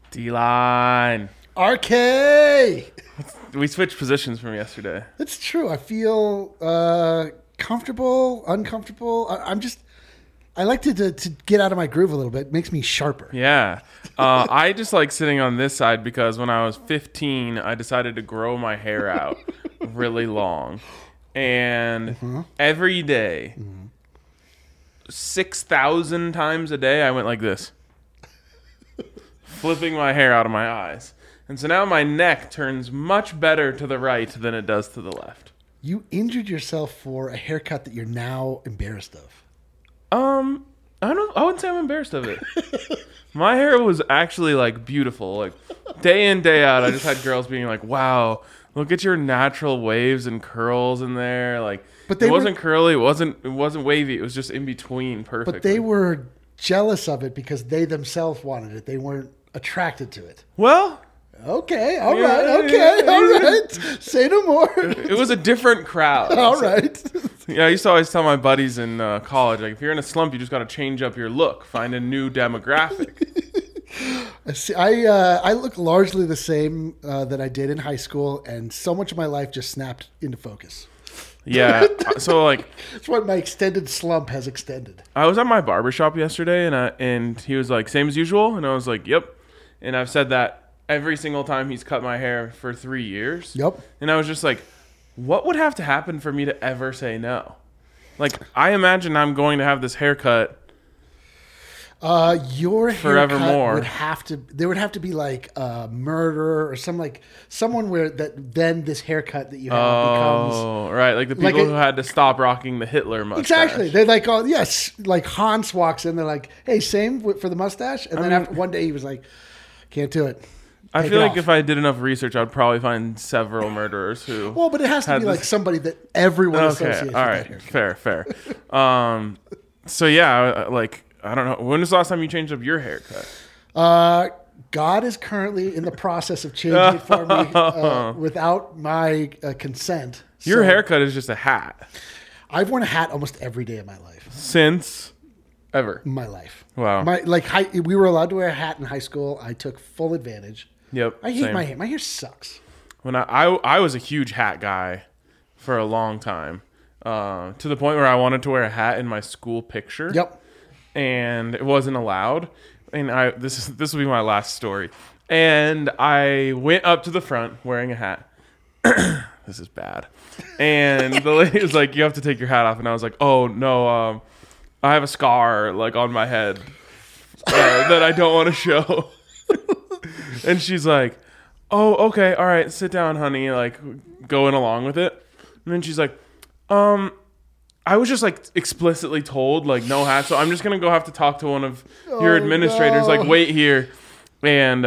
D-line. RK! We switched positions from yesterday. That's true. I feel comfortable, uncomfortable. I like to get out of my groove a little bit. It makes me sharper. Yeah. I just like sitting on this side because when I was 15, I decided to grow my hair out really long. And every day, 6,000 times a day, I went like this, flipping my hair out of my eyes. And so now my neck turns much better to the right than it does to the left. You injured yourself for a haircut that you're now embarrassed of. I wouldn't say I'm embarrassed of it. My hair was actually like beautiful. Like day in, day out, I just had girls being like, wow, look at your natural waves and curls in there. Like, but it wasn't curly, it wasn't wavy, it was just in between perfectly. But they were jealous of it because they themselves wanted it. They weren't attracted to it. Well, okay, all right. Say no more. It was a different crowd. All right. Yeah, I used to always tell my buddies in college, like, if you're in a slump, you just got to change up your look, find a new demographic. I look largely the same that I did in high school, and so much of my life just snapped into focus. Yeah, so like... That's what my extended slump has extended. I was at my barbershop yesterday, and he was like, same as usual? And I was like, yep. And I've said that every single time he's cut my hair for 3 years. Yep. And I was just like, what would have to happen for me to ever say no? Like, I imagine I'm going to have this haircut your forevermore. There would have to be like a murder or someone where then this haircut that you have becomes. Oh, right. Like the people who had to stop rocking the Hitler mustache. Exactly. They're like, oh, yes. Like Hans walks in. They're like, hey, same for the mustache. And then after one day he was like, can't do it. I feel like if I did enough research, I'd probably find several murderers who. Well, but it has to be like somebody that everyone associates with that haircut. Fair. So yeah, like I don't know. When was the last time you changed up your haircut? God is currently in the process of changing it for me without my consent. Your haircut is just a hat. I've worn a hat almost every day of my life. Since ever? My life. Wow. We were allowed to wear a hat in high school. I took full advantage. Yep. I hate my hair. My hair sucks. When I was a huge hat guy for a long time, to the point where I wanted to wear a hat in my school picture. Yep. And it wasn't allowed. And this will be my last story. And I went up to the front wearing a hat. This is bad. And the lady was like, "You have to take your hat off." And I was like, "Oh no, I have a scar like on my head that I don't want to show." And she's like, "Oh, okay, all right, sit down, honey." Like going along with it. And then she's like, I was just like explicitly told like no hat, so I'm just gonna go have to talk to one of your administrators. No. Like wait here, and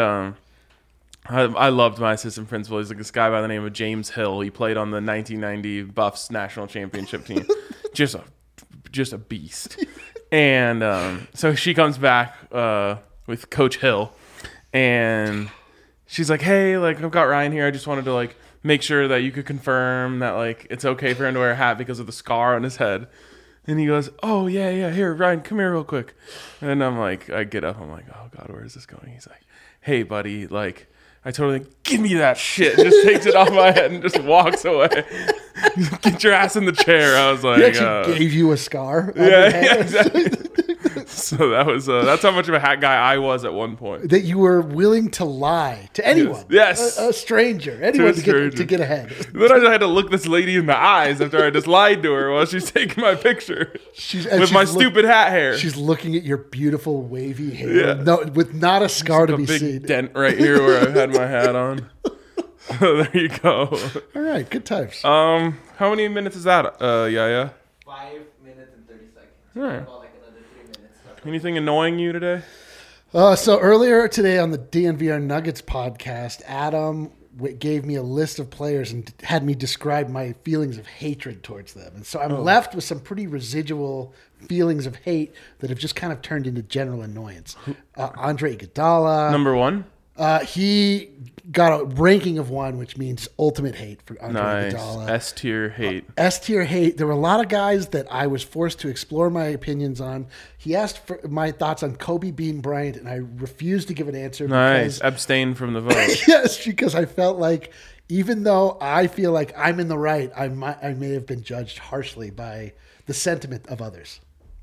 I loved my assistant principal. He's like this guy by the name of James Hill. He played on the 1990 Buffs national championship team. just a beast. And so she comes back with Coach Hill, and she's like, "Hey, like I've got Ryan here. I just wanted to like." Make sure that you could confirm that like it's okay for him to wear a hat because of the scar on his head." And he goes, "Oh yeah, here, Ryan, come here real quick." And I'm like, I get up, I'm like, "Oh God, where is this going?" He's like, "Hey buddy, like I totally give me that shit." Just takes it off my head and just walks away. "Get your ass in the chair." I was like, he actually gave you a scar. Yeah, exactly. So that was that's how much of a hat guy I was at one point. That you were willing to lie to anyone. Yes. A stranger. Anyone to get ahead. Then I just had to look this lady in the eyes after I just lied to her while she's taking my picture with my stupid hat hair. She's looking at your beautiful wavy hair with not a scar to be seen. There's a big dent right here where I had my hat on. So there you go. All right, good times. How many minutes is that, Yaya? 5 minutes and 30 seconds. All right. Anything annoying you today? So earlier today on the DNVR Nuggets podcast, Adam gave me a list of players and had me describe my feelings of hatred towards them. And so I'm left with some pretty residual feelings of hate that have just kind of turned into general annoyance. Andre Iguodala. Number one? He got a ranking of 1, which means ultimate hate for Andre Nice. Iguodala. S tier hate. S tier hate. There were a lot of guys that I was forced to explore my opinions on. He asked for my thoughts on Kobe Bean Bryant, and I refused to give an answer. Nice. Because, Abstain from the vote. yes, because I felt like even though I feel like I'm in the right, I may have been judged harshly by the sentiment of others.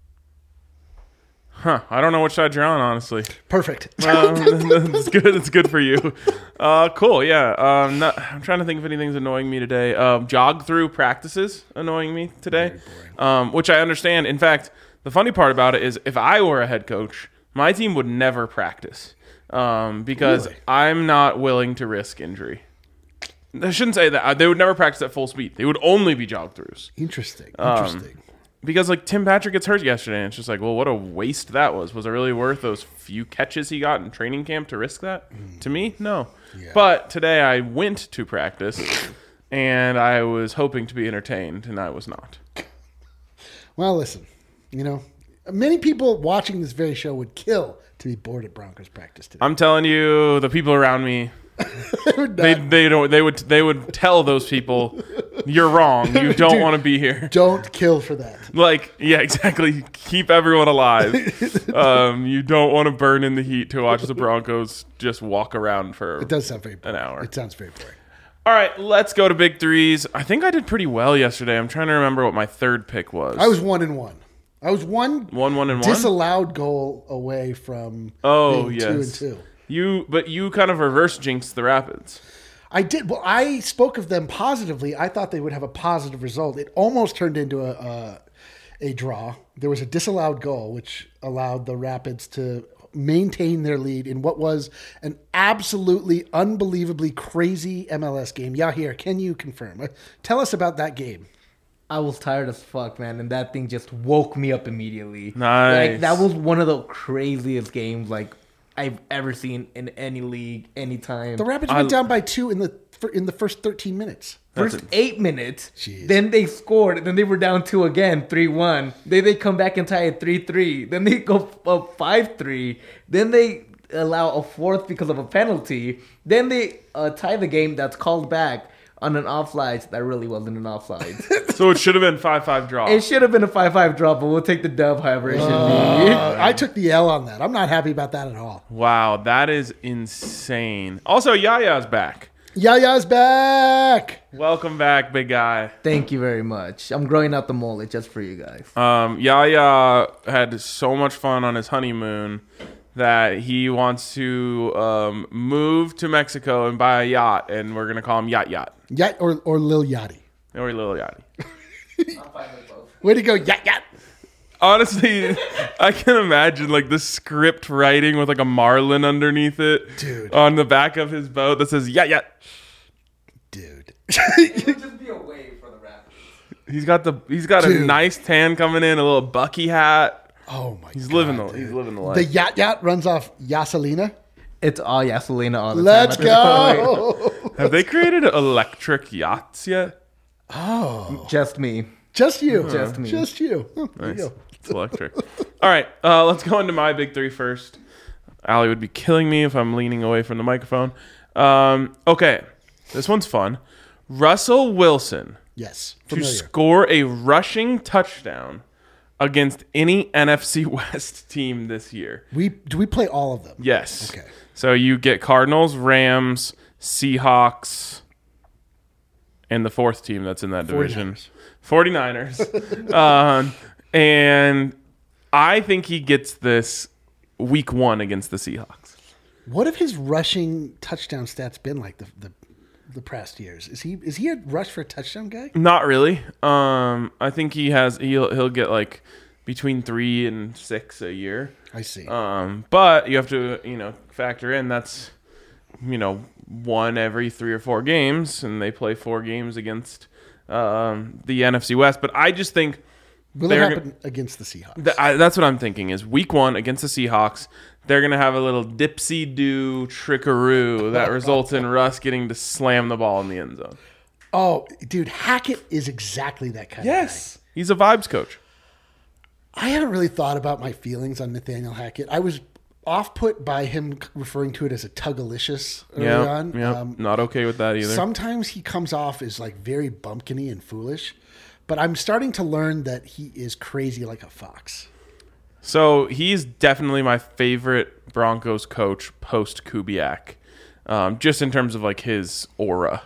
Huh. I don't know which side you're on, honestly. Perfect. It's good. It's good for you. Cool. Yeah. I'm trying to think if anything's annoying me today. Jog through practices annoying me today, which I understand. In fact, the funny part about it is if I were a head coach, my team would never practice because Really? I'm not willing to risk injury. I shouldn't say that. They would never practice at full speed. They would only be jog throughs. Interesting. Because like Tim Patrick gets hurt yesterday, and it's just like, well, what a waste that was. Was it really worth those few catches he got in training camp to risk that? To me, no. Yeah. But today I went to practice, and I was hoping to be entertained, and I was not. Well, listen, many people watching this very show would kill to be bored at Broncos practice today. I'm telling you, the people around me, they would tell those people, you're wrong. You don't Dude, want to be here. Don't kill for that. Like, yeah, exactly. Keep everyone alive. You don't want to burn in the heat to watch the Broncos just walk around for It does sound very boring. an hour. It sounds very boring. All right, let's go to big threes. I think I did pretty well yesterday. I'm trying to remember what my third pick was. I was 1-1. I was one 1-1-1. disallowed goal away from Oh, being yes. 2-2. You kind of reverse jinxed the Rapids. I did. Well, I spoke of them positively. I thought they would have a positive result. It almost turned into a draw. There was a disallowed goal, which allowed the Rapids to maintain their lead in what was an absolutely unbelievably crazy MLS game. Yahir, can you confirm? Tell us about that game. I was tired as fuck, man, and that thing just woke me up immediate. Nice. Like, that was one of the craziest games I've ever seen in any league, anytime. The Rapids went down by 2 in the first 13 minutes. First 8 minutes, Jeez. then they scored, and then they were down 2 again, 3-1. Then they come back and tie it 3-3. Then they go up 5-3. Then they allow a fourth because of a penalty. Then they tie the game that's called back on an offside that really wasn't an offside. So it should have been 5-5 draw. It should have been a 5-5 draw, but we'll take the dub however it should be. I took the L on that. I'm not happy about that at all. Wow, that is insane. Also, Yaya's back. Yaya's back. Welcome back, big guy. Thank you very much. I'm growing out the mullet just for you guys. Yaya had so much fun on his honeymoon that he wants to move to Mexico and buy a yacht, and we're gonna call him Yacht Yacht Yacht or Lil Yachty. or Lil Yachty. I'm fine with both. Way to go, Yacht Yacht. Honestly, I can imagine like the script writing with like a marlin underneath it, Dude. on the back of his boat that says Yacht Yacht. Dude. It would just be a wave for the Raptors. He's got a Dude. nice tan coming in, a little Bucky hat. Oh my He's god. living the The life. Yacht Yacht runs off Yaselina. It's all Yaselina all the Let's time. at this go. Have they created electric yachts yet? point. Just me. Just you. Just me. Just you. Oh, there you Nice. go. It's electric. All right, let's go into my big three first. Allie would be killing me if I'm leaning away from the microphone. Okay, this one's fun. Russell Wilson Yes. to Familiar. score a rushing touchdown against any NFC West team this year. Do we play all of them? Yes. Okay. So you get Cardinals, Rams, Seahawks, and the fourth team that's in that division. 49ers. And I think he gets this week 1 against the Seahawks. What have his rushing touchdown stats been like the past years? Is he a rush for a touchdown guy? Not really. I think he'll get like between 3 and 6 a year. I see. But you have to, factor in that's, 1 every 3 or 4 games, and they play 4 games against the NFC West. But I just think Will it happen against the Seahawks? that's what I'm thinking is week 1 against the Seahawks, they're going to have a little dipsy-do trickaroo that results in Russ getting to slam the ball in the end zone. Oh, dude, Hackett is exactly that kind of guy. He's a vibes coach. I haven't really thought about my feelings on Nathaniel Hackett. I was off put by him referring to it as a Tugalicious early on. Yeah, not okay with that either. Sometimes he comes off as like very bumpkiny and foolish, but I'm starting to learn that he is crazy like a fox. So he's definitely my favorite Broncos coach post Kubiak, just in terms of like his aura.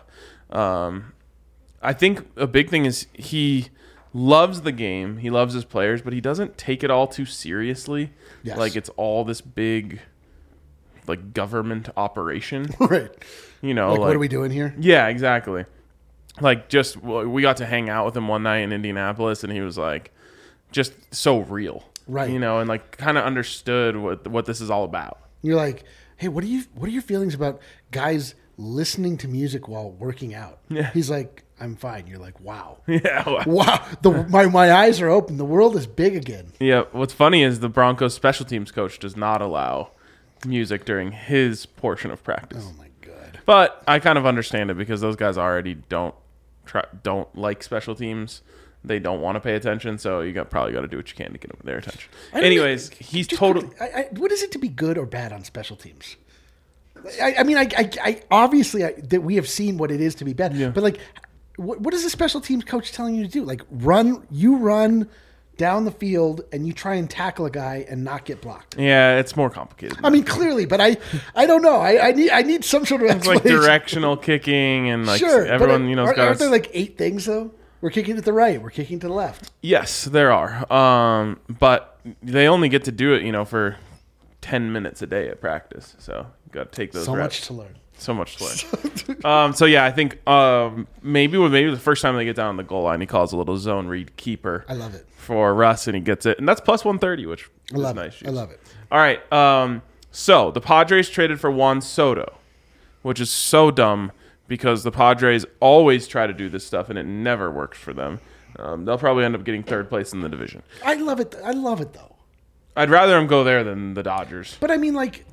I think a big thing is he loves the game. He loves his players, but he doesn't take it all too seriously. Yes. Like it's all this big, like government operation. Right. You know, Like, what are we doing here? Yeah, exactly. Like we got to hang out with him one night in Indianapolis, and he was like, just so real. Right. You know, and like kind of understood what this is all about. You're like, hey, what are your feelings about guys listening to music while working out? Yeah. He's like, I'm fine. You're like, wow. Yeah. Wow. My eyes are open. The world is big again. Yeah. What's funny is the Broncos special teams coach does not allow music during his portion of practice. Oh my God. But I kind of understand it because those guys already don't like special teams. They don't want to pay attention, so you probably got to do what you can to get them their attention. Anyways, he's totally. What is it to be good or bad on special teams? I mean, I obviously that we have seen what it is to be bad, Yeah. but like, what is a special teams coach telling you to do? Like, run down the field and you try and tackle a guy and not get blocked. Yeah, it's more complicated. I mean, clearly, but I don't know. I need some sort of It's like explanation. directional kicking and like Sure, everyone, but you know, aren't there like 8 things though? We're kicking to the right. We're kicking to the left. Yes, there are. But they only get to do it, you know, for 10 minutes a day at practice. So you got to take those So reps. much to learn. So much to learn. So yeah, I think maybe the first time they get down on the goal line, he calls a little zone read keeper. I love it. For Russ, and he gets it, and that's plus 130, which I love is nice. it. I love it. All right. So the Padres traded for Juan Soto, which is so dumb because the Padres always try to do this stuff and it never works for them. They'll probably end up getting third place in the division. I love it. I love it though. I'd rather him go there than the Dodgers. But I mean, like,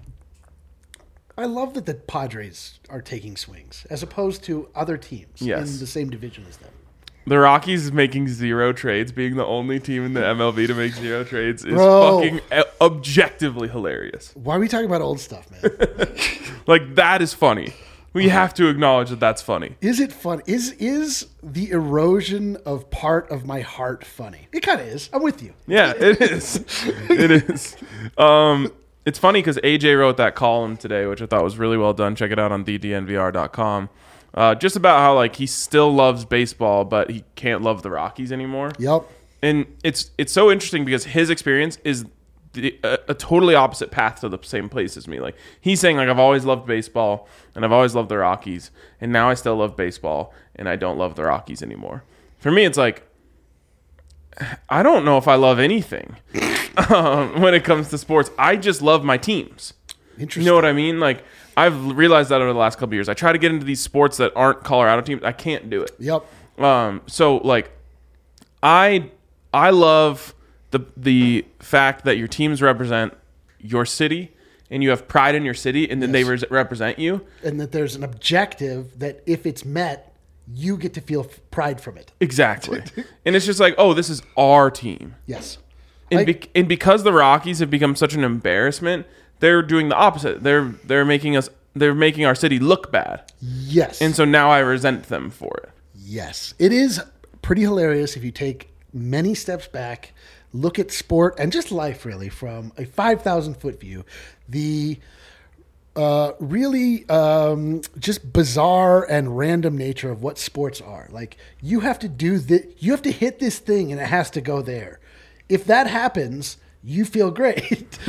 I love that the Padres are taking swings as opposed to other teams Yes. in the same division as them. The Rockies making 0 trades, being the only team in the MLB to make 0 trades, is Bro. fucking objectively hilarious. Why are we talking about old stuff, man? Like, that is funny. We have to acknowledge that that's funny. Is it fun? Is the erosion of part of my heart funny? It kind of is. I'm with you. Yeah, it is. It is. It's funny because AJ wrote that column today, which I thought was really well done. Check it out on ddnvr.com. Just about how like he still loves baseball, but he can't love the Rockies anymore. Yep. And it's so interesting because his experience is a totally opposite path to the same place as me. Like he's saying, like I've always loved baseball and I've always loved the Rockies, and now I still love baseball and I don't love the Rockies anymore. For me, it's like I don't know if I love anything when it comes to sports. I just love my teams. Interesting. You know what I mean? Like I've realized that over the last couple of years. I try to get into these sports that aren't Colorado teams. I can't do it. Yep. So like I love the fact that your teams represent your city and you have pride in your city, and then they represent you. And that there's an objective that if it's met, you get to feel pride from it. Exactly. And it's just like, oh, this is our team. Yes. And, and because the Rockies have become such an embarrassment, they're doing the opposite. They're making our city look bad. Yes. And so now I resent them for it. Yes. It is pretty hilarious if you take many steps back, look at sport and just life really from a 5,000-foot view. The really just bizarre and random nature of what sports are. Like you have to you have to hit this thing and it has to go there. If that happens, you feel great.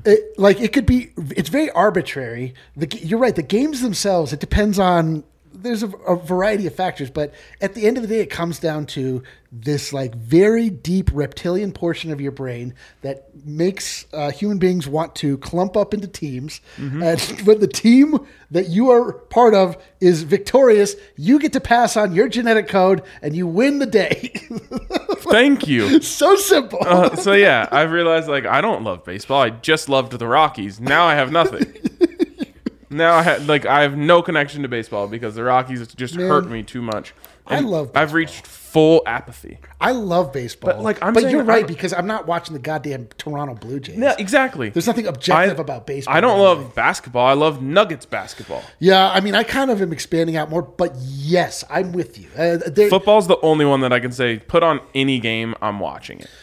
It's very arbitrary. You're right. The games themselves, it depends on, there's a variety of factors, but at the end of the day, it comes down to this like very deep reptilian portion of your brain that makes human beings want to clump up into teams. Mm-hmm. And when the team that you are part of is victorious, you get to pass on your genetic code and you win the day. Thank you. So simple. So yeah, I've realized like I don't love baseball. I just loved the Rockies. Now I have nothing. Now I have no connection to baseball because the Rockies just hurt me too much. I And love baseball. I've reached full apathy. I love baseball. But you're right, because I'm not watching the goddamn Toronto Blue Jays. Yeah, exactly. There's nothing objective about baseball. I don't love basketball. I love Nuggets basketball. Yeah, I mean, I kind of am expanding out more, but yes, I'm with you. Football's the only one that I can say put on any game. I'm watching it.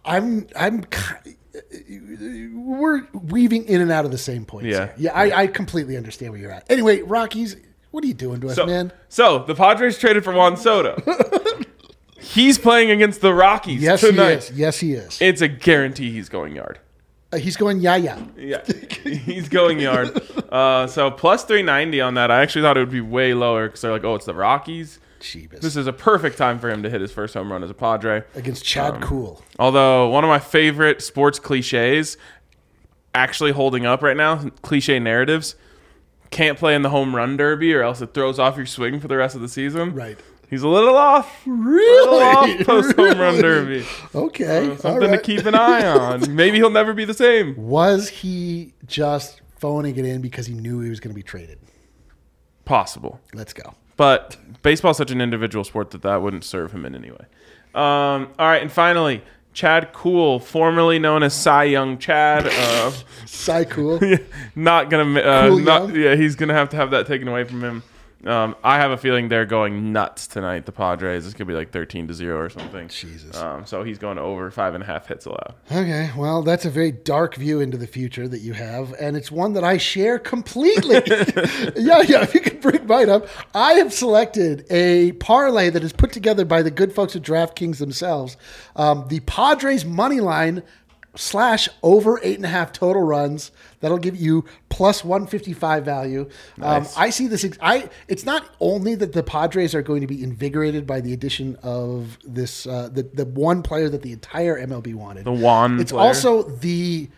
We're weaving in and out of the same points. Yeah. Here. Yeah, I completely understand where you're at. Anyway, Rockies, what are you doing to us, man? So the Padres traded for Juan Soto. He's playing against the Rockies tonight. He is. Yes, he is. It's a guarantee he's going yard. He's going yeah. Yeah, he's going yard. So plus 390 on that. I actually thought it would be way lower because they're like, oh, it's the Rockies. Jeebus. This is a perfect time for him to hit his first home run as a Padre. Against Chad Cool. Although one of my favorite sports cliches actually holding up right now, cliche narratives, can't play in the home run derby or else it throws off your swing for the rest of the season. Right. He's a little off. Really? Off post home run derby. Okay. Something to keep an eye on. Maybe he'll never be the same. Was he just phoning it in because he knew he was going to be traded? Possible. Let's go. But baseball's such an individual sport that wouldn't serve him in any way. All right, and finally, Chad Kuhl, formerly known as Cy Young Chad. Cy Cool. Not gonna. Cool Young? Yeah, he's gonna have to have that taken away from him. I have a feeling they're going nuts tonight. The Padres. It's gonna be like 13-0 or something. Jesus. So he's going over 5.5 hits allowed. Okay, well, that's a very dark view into the future that you have, and it's one that I share completely. yeah, if you can bring mine up. I have selected a parlay that is put together by the good folks at DraftKings themselves. The Padres money line / over 8.5 total runs. That'll give you plus 155 value. Nice. I see this. It's not only that the Padres are going to be invigorated by the addition of this the one player that the entire MLB wanted. The Juan It's player. also the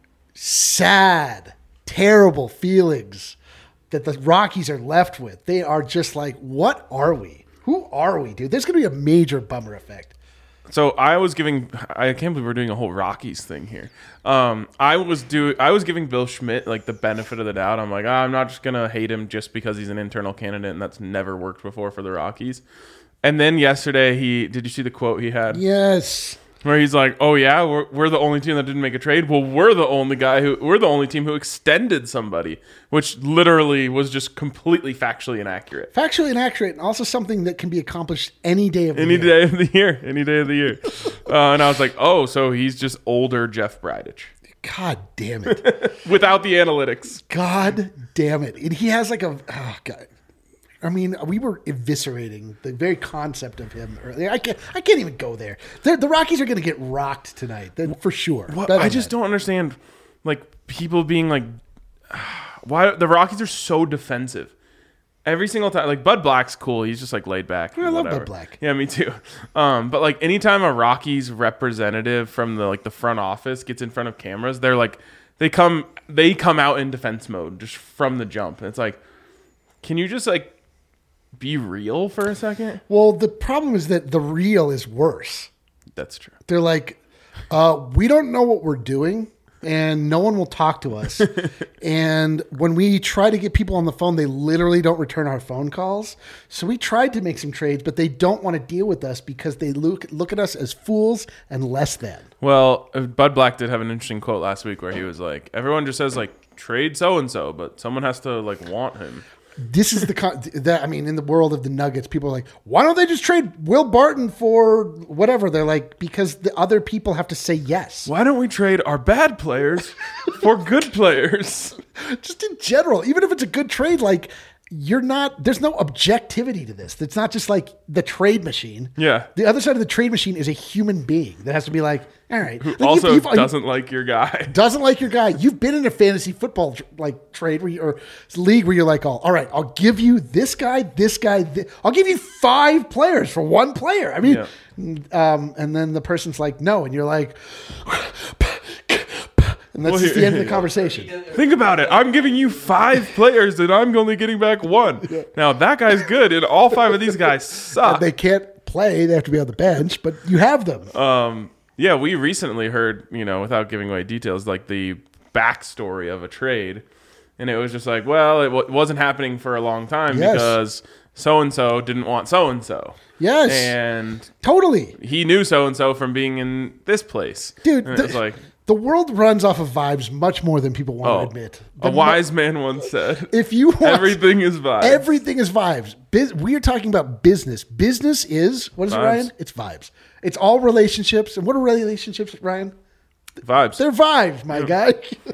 sad, terrible feelings that the Rockies are left with. They are just like, what are we? Who are we, dude? There's going to be a major bummer effect. So I can't believe we're doing a whole Rockies thing here. I was giving Bill Schmidt like the benefit of the doubt. I'm like, I'm not just gonna hate him just because he's an internal candidate, and that's never worked before for the Rockies. And then yesterday, did you see the quote he had? Yes. Where he's like, "Oh yeah, we're the only team that didn't make a trade. Well, we're the only team who extended somebody," which literally was just completely factually inaccurate. Factually inaccurate, and also something that can be accomplished any day of the year. Any day of the year. And I was like, "Oh, so he's just older Jeff Bridich God damn it. without the analytics." God damn it. And he has like oh God. I mean, we were eviscerating the very concept of him earlier. I can't even go there. The Rockies are going to get rocked tonight, for sure. I just don't understand, like, people being like, why the Rockies are so defensive every single time. Like, Bud Black's cool; he's just like laid back. I love Bud Black. Yeah, me too. But like, anytime a Rockies representative from the front office gets in front of cameras, they're like, they come out in defense mode just from the jump. And it's like, can you just like be real for a second? Well, the problem is that the real is worse. That's true. They're like, we don't know what we're doing, and no one will talk to us. And when we try to get people on the phone, they literally don't return our phone calls. So we tried to make some trades, but they don't want to deal with us because they look at us as fools and less than. Well, Bud Black did have an interesting quote last week where he was like, everyone just says like trade so-and-so, but someone has to like want him. This is in the world of the Nuggets, people are like, why don't they just trade Will Barton for whatever? They're like, because the other people have to say yes. Why don't we trade our bad players for good players? Just in general, even if it's a good trade, like there's no objectivity to this. It's not just like the trade machine. Yeah. The other side of the trade machine is a human being that has to be like, all right. Who Like, also doesn't like your guy. Doesn't like your guy. You've been in a fantasy football like trade or league where you're like, all right, I'll give you this guy. I'll give you 5 players for 1 player. I mean, and then the person's like, no, and you're like, and that's just the end of the conversation. Think about it. I'm giving you 5 players and I'm only getting back 1. Yeah. Now that guy's good and all 5 of these guys suck. And they can't play. They have to be on the bench, but you have them. Yeah, we recently heard, without giving away details, like the backstory of a trade. And it was just like, well, it wasn't happening for a long time because so-and-so didn't want so-and-so. Yes. And totally. he knew so-and-so from being in this place. Dude, and it was like, the world runs off of vibes much more than people want to admit. A wise man once said, if you want, everything is vibes. Everything is vibes. We are talking about business. Business is, what is it, Ryan? It's vibes. It's all relationships. And what are relationships, Ryan? Vibes. They're vibes, my guy.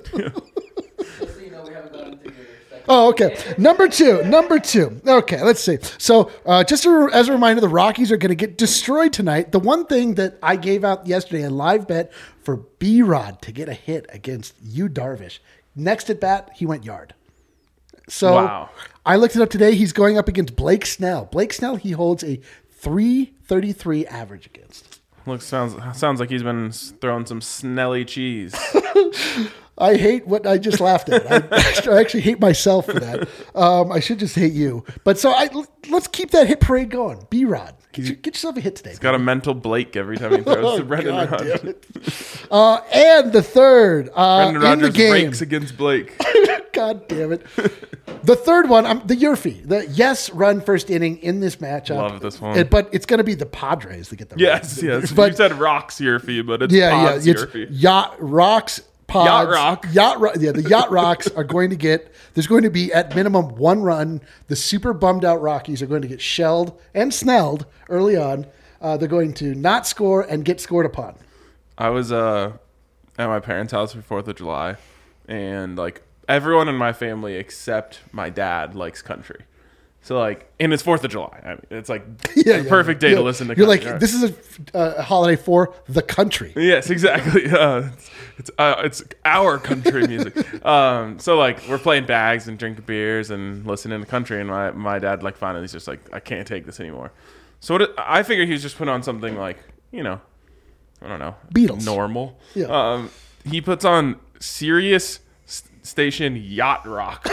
Oh, okay. Number two. Okay, let's see. So, just as a reminder, the Rockies are going to get destroyed tonight. The one thing that I gave out yesterday, a live bet for B-Rod to get a hit against Yu Darvish. Next at bat, he went yard. So, wow. I looked it up today. He's going up against Blake Snell. Blake Snell, he holds a 333 average against. Sounds like he's been throwing some Snelly cheese. I hate what I just laughed at. I actually hate myself for that. I should just hate you. But so let's keep that hit parade going. B-Rod, get yourself a hit today. He's got a mental Blake every time he throws to Brendan Rodgers. And the third Brendan in Rodgers the game. rakes against Blake. God damn it. The third one, the Yurfie. The run first inning in this matchup. Love this one. But it's going to be the Padres that get the Yes. But, you said Rocks Yurfie, but it's Pods Yurfie. Yacht Rocks. Pods, Yacht Rock. The Yacht Rocks are going to get, there's going to be at minimum one run. The super bummed out Rockies are going to get shelled and snelled early on. They're going to not score and get scored upon. I was at my parents' house for 4th of July, and like everyone in my family except my dad likes country. So like, and it's 4th of July. I mean, it's like the perfect day to listen to country. You're like, this is a holiday for the country. Yes, exactly. It's our country music. So like we're playing bags and drinking beers and listening to country, and my dad like finally he's just like, I can't take this anymore. So I figured he was just putting on something like, I don't know, Beatles, normal. Yeah. He puts on Sirius station Yacht Rock.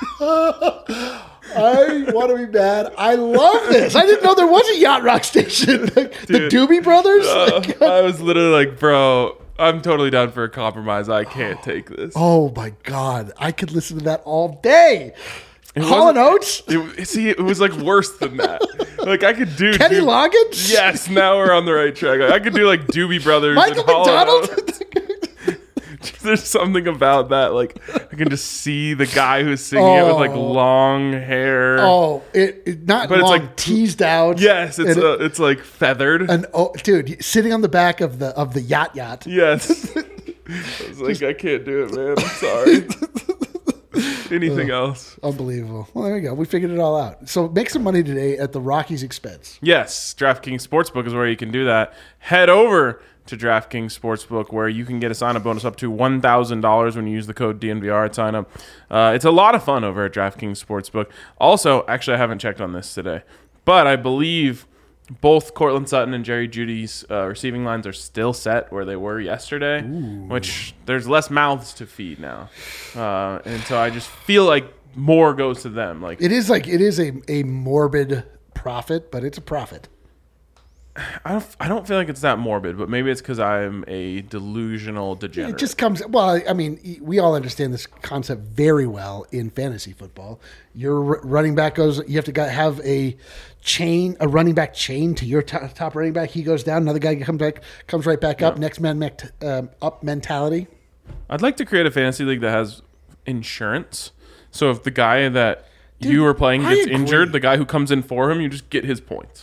I want to be mad. I love this. I didn't know there was a Yacht Rock station. The Doobie Brothers? I was literally like, bro, I'm totally down for a compromise. I can't take this. Oh, my God. I could listen to that all day. Hall & Oates? It was like worse than that. Like I could do Kenny Loggins? Yes, now we're on the right track. I could do like Doobie Brothers. Michael and McDonald? There's something about that. Like I can just see the guy who's singing it with like long hair. Oh, it not but long, it's like teased out. Yes, it's like feathered. Dude, sitting on the back of the yacht. Yes. I was like, I can't do it, man. I'm sorry. Anything else? Unbelievable. Well, there you go. We figured it all out. So make some money today at the Rockies' expense. Yes, DraftKings Sportsbook is where you can do that. Head over to DraftKings Sportsbook, where you can get a sign-up bonus up to $1,000 when you use the code DNVR at sign-up. It's a lot of fun over at DraftKings Sportsbook. Also, actually, I haven't checked on this today, but I believe both Cortland Sutton and Jerry Jeudy's receiving lines are still set where they were yesterday, which there's less mouths to feed now. And so I just feel like more goes to them. Like it is a morbid profit, but it's a profit. I don't feel like it's that morbid, but maybe it's because I'm a delusional degenerate. It just comes. Well, I mean, we all understand this concept very well in fantasy football. Your running back goes. You have to have a running back chain to your top running back. He goes down. Another guy comes right back up. Next man up mentality. I'd like to create a fantasy league that has insurance. So if the guy that you are playing gets injured, the guy who comes in for him, you just get his points.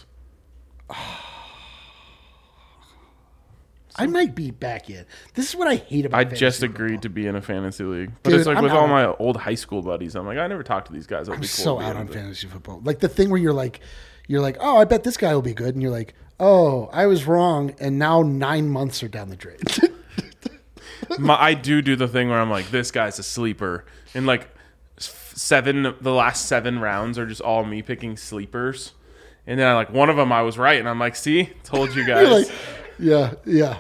I might be back in. This is what I hate about I fantasy just football. agreed to be in a fantasy league. But Dude, it's like I'm with out. all my old high school buddies, I'm like, I never talked to these guys. I'm so out on fantasy football. Like the thing where you're like, oh, I bet this guy will be good. And you're like, oh, I was wrong. And now 9 months are down the drain. I do the thing where I'm like, this guy's a sleeper. And like the last 7 rounds are just all me picking sleepers. And then one of them I was right. And I'm like, see, told you guys. Yeah.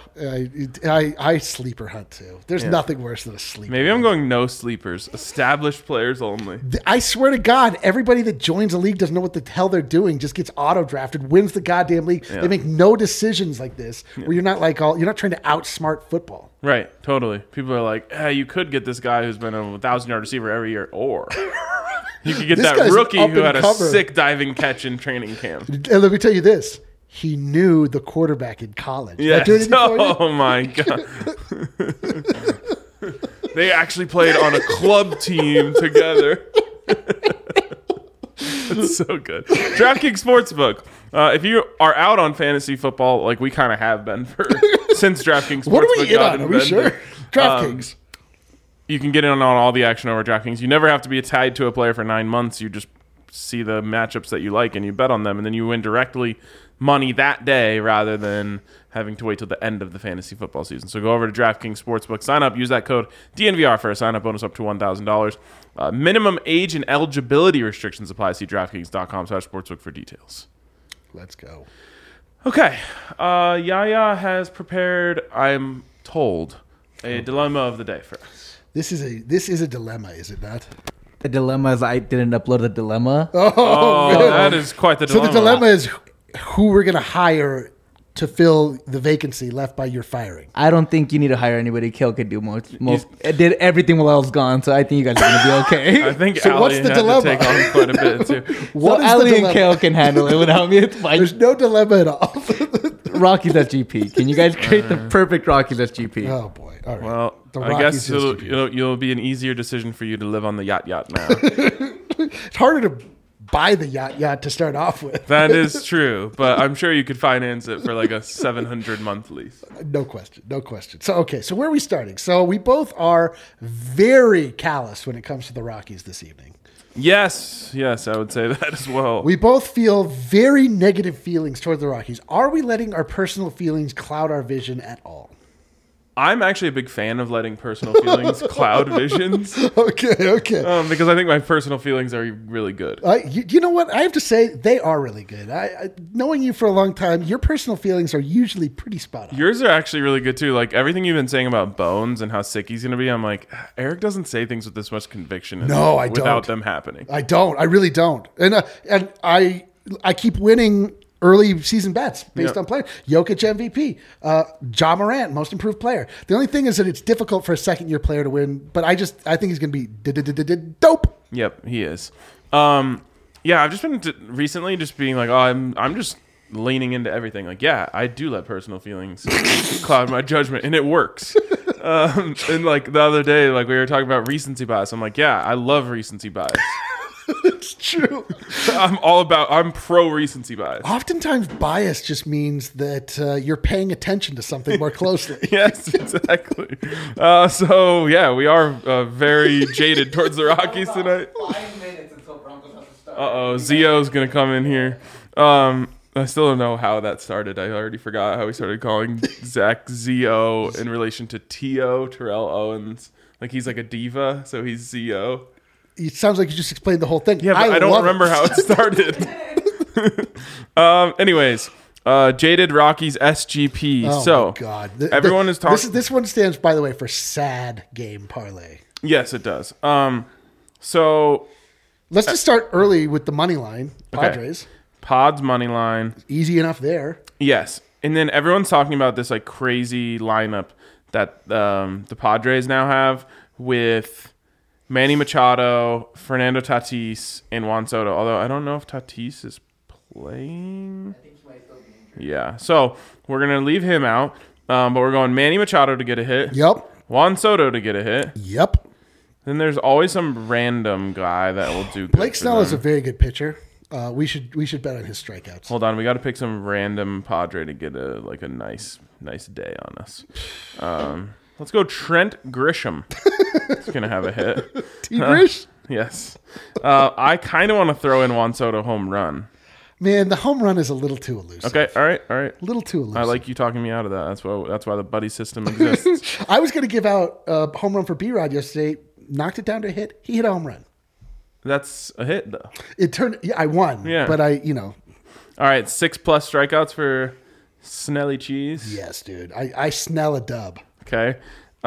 I sleeper hunt too. There's nothing worse than a sleeper. Maybe I'm going no sleepers. Established players only. I swear to God, everybody that joins a league doesn't know what the hell they're doing. Just gets auto drafted, wins the goddamn league. Yeah. They make no decisions like this. Where you're not you're not trying to outsmart football. Right, totally. People are like, you could get this guy who's been a 1,000-yard receiver every year, or you could get This that guy's rookie up who and had a covered. sick diving catch in training camp. And let me tell you this: he knew the quarterback in college. Did that Yes. do anything for you? Oh my god. They actually played on a club team together. That's so good. DraftKings Sportsbook. If you are out on fantasy football, like we kind of have been since DraftKings Sportsbook What are we in got on? Are we invented, sure? DraftKings. you can get in on all the action over DraftKings. You never have to be tied to a player for 9 months. You just see the matchups that you like and you bet on them, and then you win directly money that day rather than having to wait till the end of the fantasy football season. So go over to DraftKings Sportsbook, sign up, use that code DNVR for a sign-up bonus up to $1,000. Minimum age and eligibility restrictions apply. See DraftKings.com/sportsbook for details. Let's go. Okay. Yaya has prepared, I'm told, a dilemma of the day for us. This is a dilemma, is it not? The dilemma is I didn't upload the dilemma. Oh, man. that is quite the So dilemma. the dilemma is who we're going to hire to fill the vacancy left by your firing. I don't think you need to hire anybody. Kale could do most. It did everything while I was gone, so I think you guys are gonna be okay. I think So Ali what's the had dilemma? to take on quite a bit, too. What so is the Ali and dilemma? Kale can handle it without me. It's fine. There's no dilemma at all. Rockies SGP. Can you guys create the perfect Rockies SGP? Oh boy! All right. Well, The I Rockies guess SGP. you'll be an easier decision for you to live on the yacht now. It's harder to buy the yacht to start off with. That is true, but I'm sure you could finance it for like a 700 month lease. No question. So where are we starting? So we both are very callous when it comes to the Rockies this evening. Yes, I would say that as well. We both feel very negative feelings toward the Rockies. Are we letting our personal feelings cloud our vision at all? I'm actually a big fan of letting personal feelings cloud visions Okay. because I think my personal feelings are really good. You know what? I have to say they are really good. Knowing you for a long time, your personal feelings are usually pretty spot on. Yours are actually really good too. Like everything you've been saying about Bones and how sick he's going to be, I'm like, Eric doesn't say things with this much conviction. No, I without don't. them happening. I don't. I really don't. And I keep winning early season bets based on players. Jokic MVP, Ja Morant, most improved player. The only thing is that it's difficult for a second year player to win, but I think he's going to be dope. Yep, he is. Yeah, I've just been recently just being like, I'm just leaning into everything. Like, yeah, I do let personal feelings cloud my judgment, and it works. And like the other day, like we were talking about recency bias. I'm like, yeah, I love recency bias. It's true. I'm pro recency bias. Oftentimes, bias just means that you're paying attention to something more closely. Yes, exactly. So yeah, we are very jaded towards the Rockies tonight. 5 minutes until Broncos have to start. Zio's gonna come in here. I still don't know how that started. I already forgot how we started calling Zach Zio in relation to T.O. Terrell Owens. Like he's like a diva, so he's Zio. It sounds like you just explained the whole thing. Yeah, but I don't love remember how it started. Anyways, Jaded Rockies SGP. Oh so my God. everyone is talking. This one stands, by the way, for sad game parlay. Yes, it does. So Let's just start early with the money line. Padres. Pods money line. Easy enough there. Yes, and then everyone's talking about this like crazy lineup that the Padres now have with Manny Machado, Fernando Tatis, and Juan Soto. Although I don't know if Tatis is playing. I think he might still be injured. Yeah, so we're gonna leave him out, but we're going Manny Machado to get a hit. Yep. Juan Soto to get a hit. Yep. Then there's always some random guy that will do good. Blake for Snell is a them. very good pitcher. We should bet on his strikeouts. Hold on, we got to pick some random Padre to get a nice day on us. Let's go Trent Grisham. He's gonna have a hit. T-Grish? Yes. I kind of want to throw in Juan Soto home run. Man, the home run is a little too elusive. Okay, all right. A little too elusive. I like you talking me out of that. That's why the buddy system exists. I was going to give out a home run for B-Rod yesterday. Knocked it down to a hit. He hit a home run. That's a hit though. It turned. Yeah, I won. Yeah. But All right, 6+ strikeouts for Snelly cheese. Yes, dude. I smell a dub. Okay.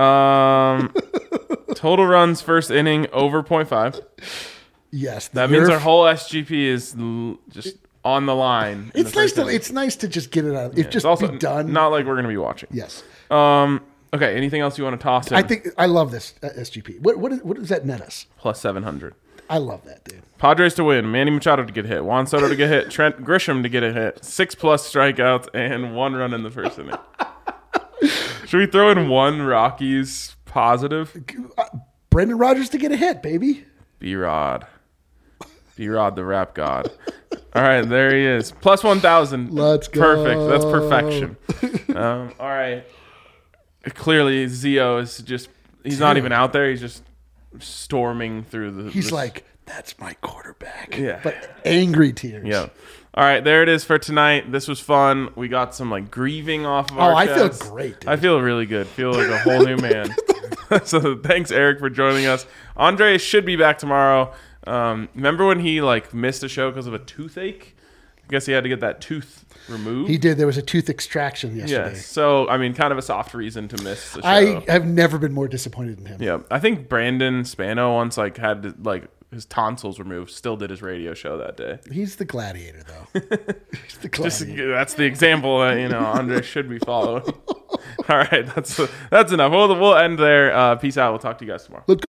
Total runs first inning over 0.5. Yes. That means our whole SGP is just on the line. It's nice to just get it out. If just also be done. Not like we're gonna be watching. Yes. Okay. Anything else you want to toss in? I think I love this SGP. What does that net us? Plus 700. I love that, dude. Padres to win. Manny Machado to get hit. Juan Soto to get hit. Trent Grisham to get a hit. 6+ strikeouts and 1 run in the first inning. Should we throw in 1 Rockies positive? Brendan Rodgers to get a hit, baby. B-Rod. B-Rod, the rap god. All right, there he is. Plus 1,000. Let's go. Perfect. That's perfection. All right. Clearly, Zio is he's not even out there. He's just storming through the... He's like, that's my quarterback. Yeah. But angry tears. Yeah. All right, there it is for tonight. This was fun. We got some grieving off of our I feel chests. great, dude. I feel really good. Feel like a whole new man. So thanks, Eric, for joining us. Andre should be back tomorrow. Remember when he missed a show because of a toothache? I guess he had to get that tooth removed. He did. There was a tooth extraction yesterday. Yes. So, kind of a soft reason to miss the show. I have never been more disappointed in him. Yeah. I think Brandon Spano once had to, his tonsils removed, still did his radio show that day. He's the gladiator, though. He's the gladiator. That's the example that, Andre should be following. All right. That's enough. We'll end there. Peace out. We'll talk to you guys tomorrow. Let's go.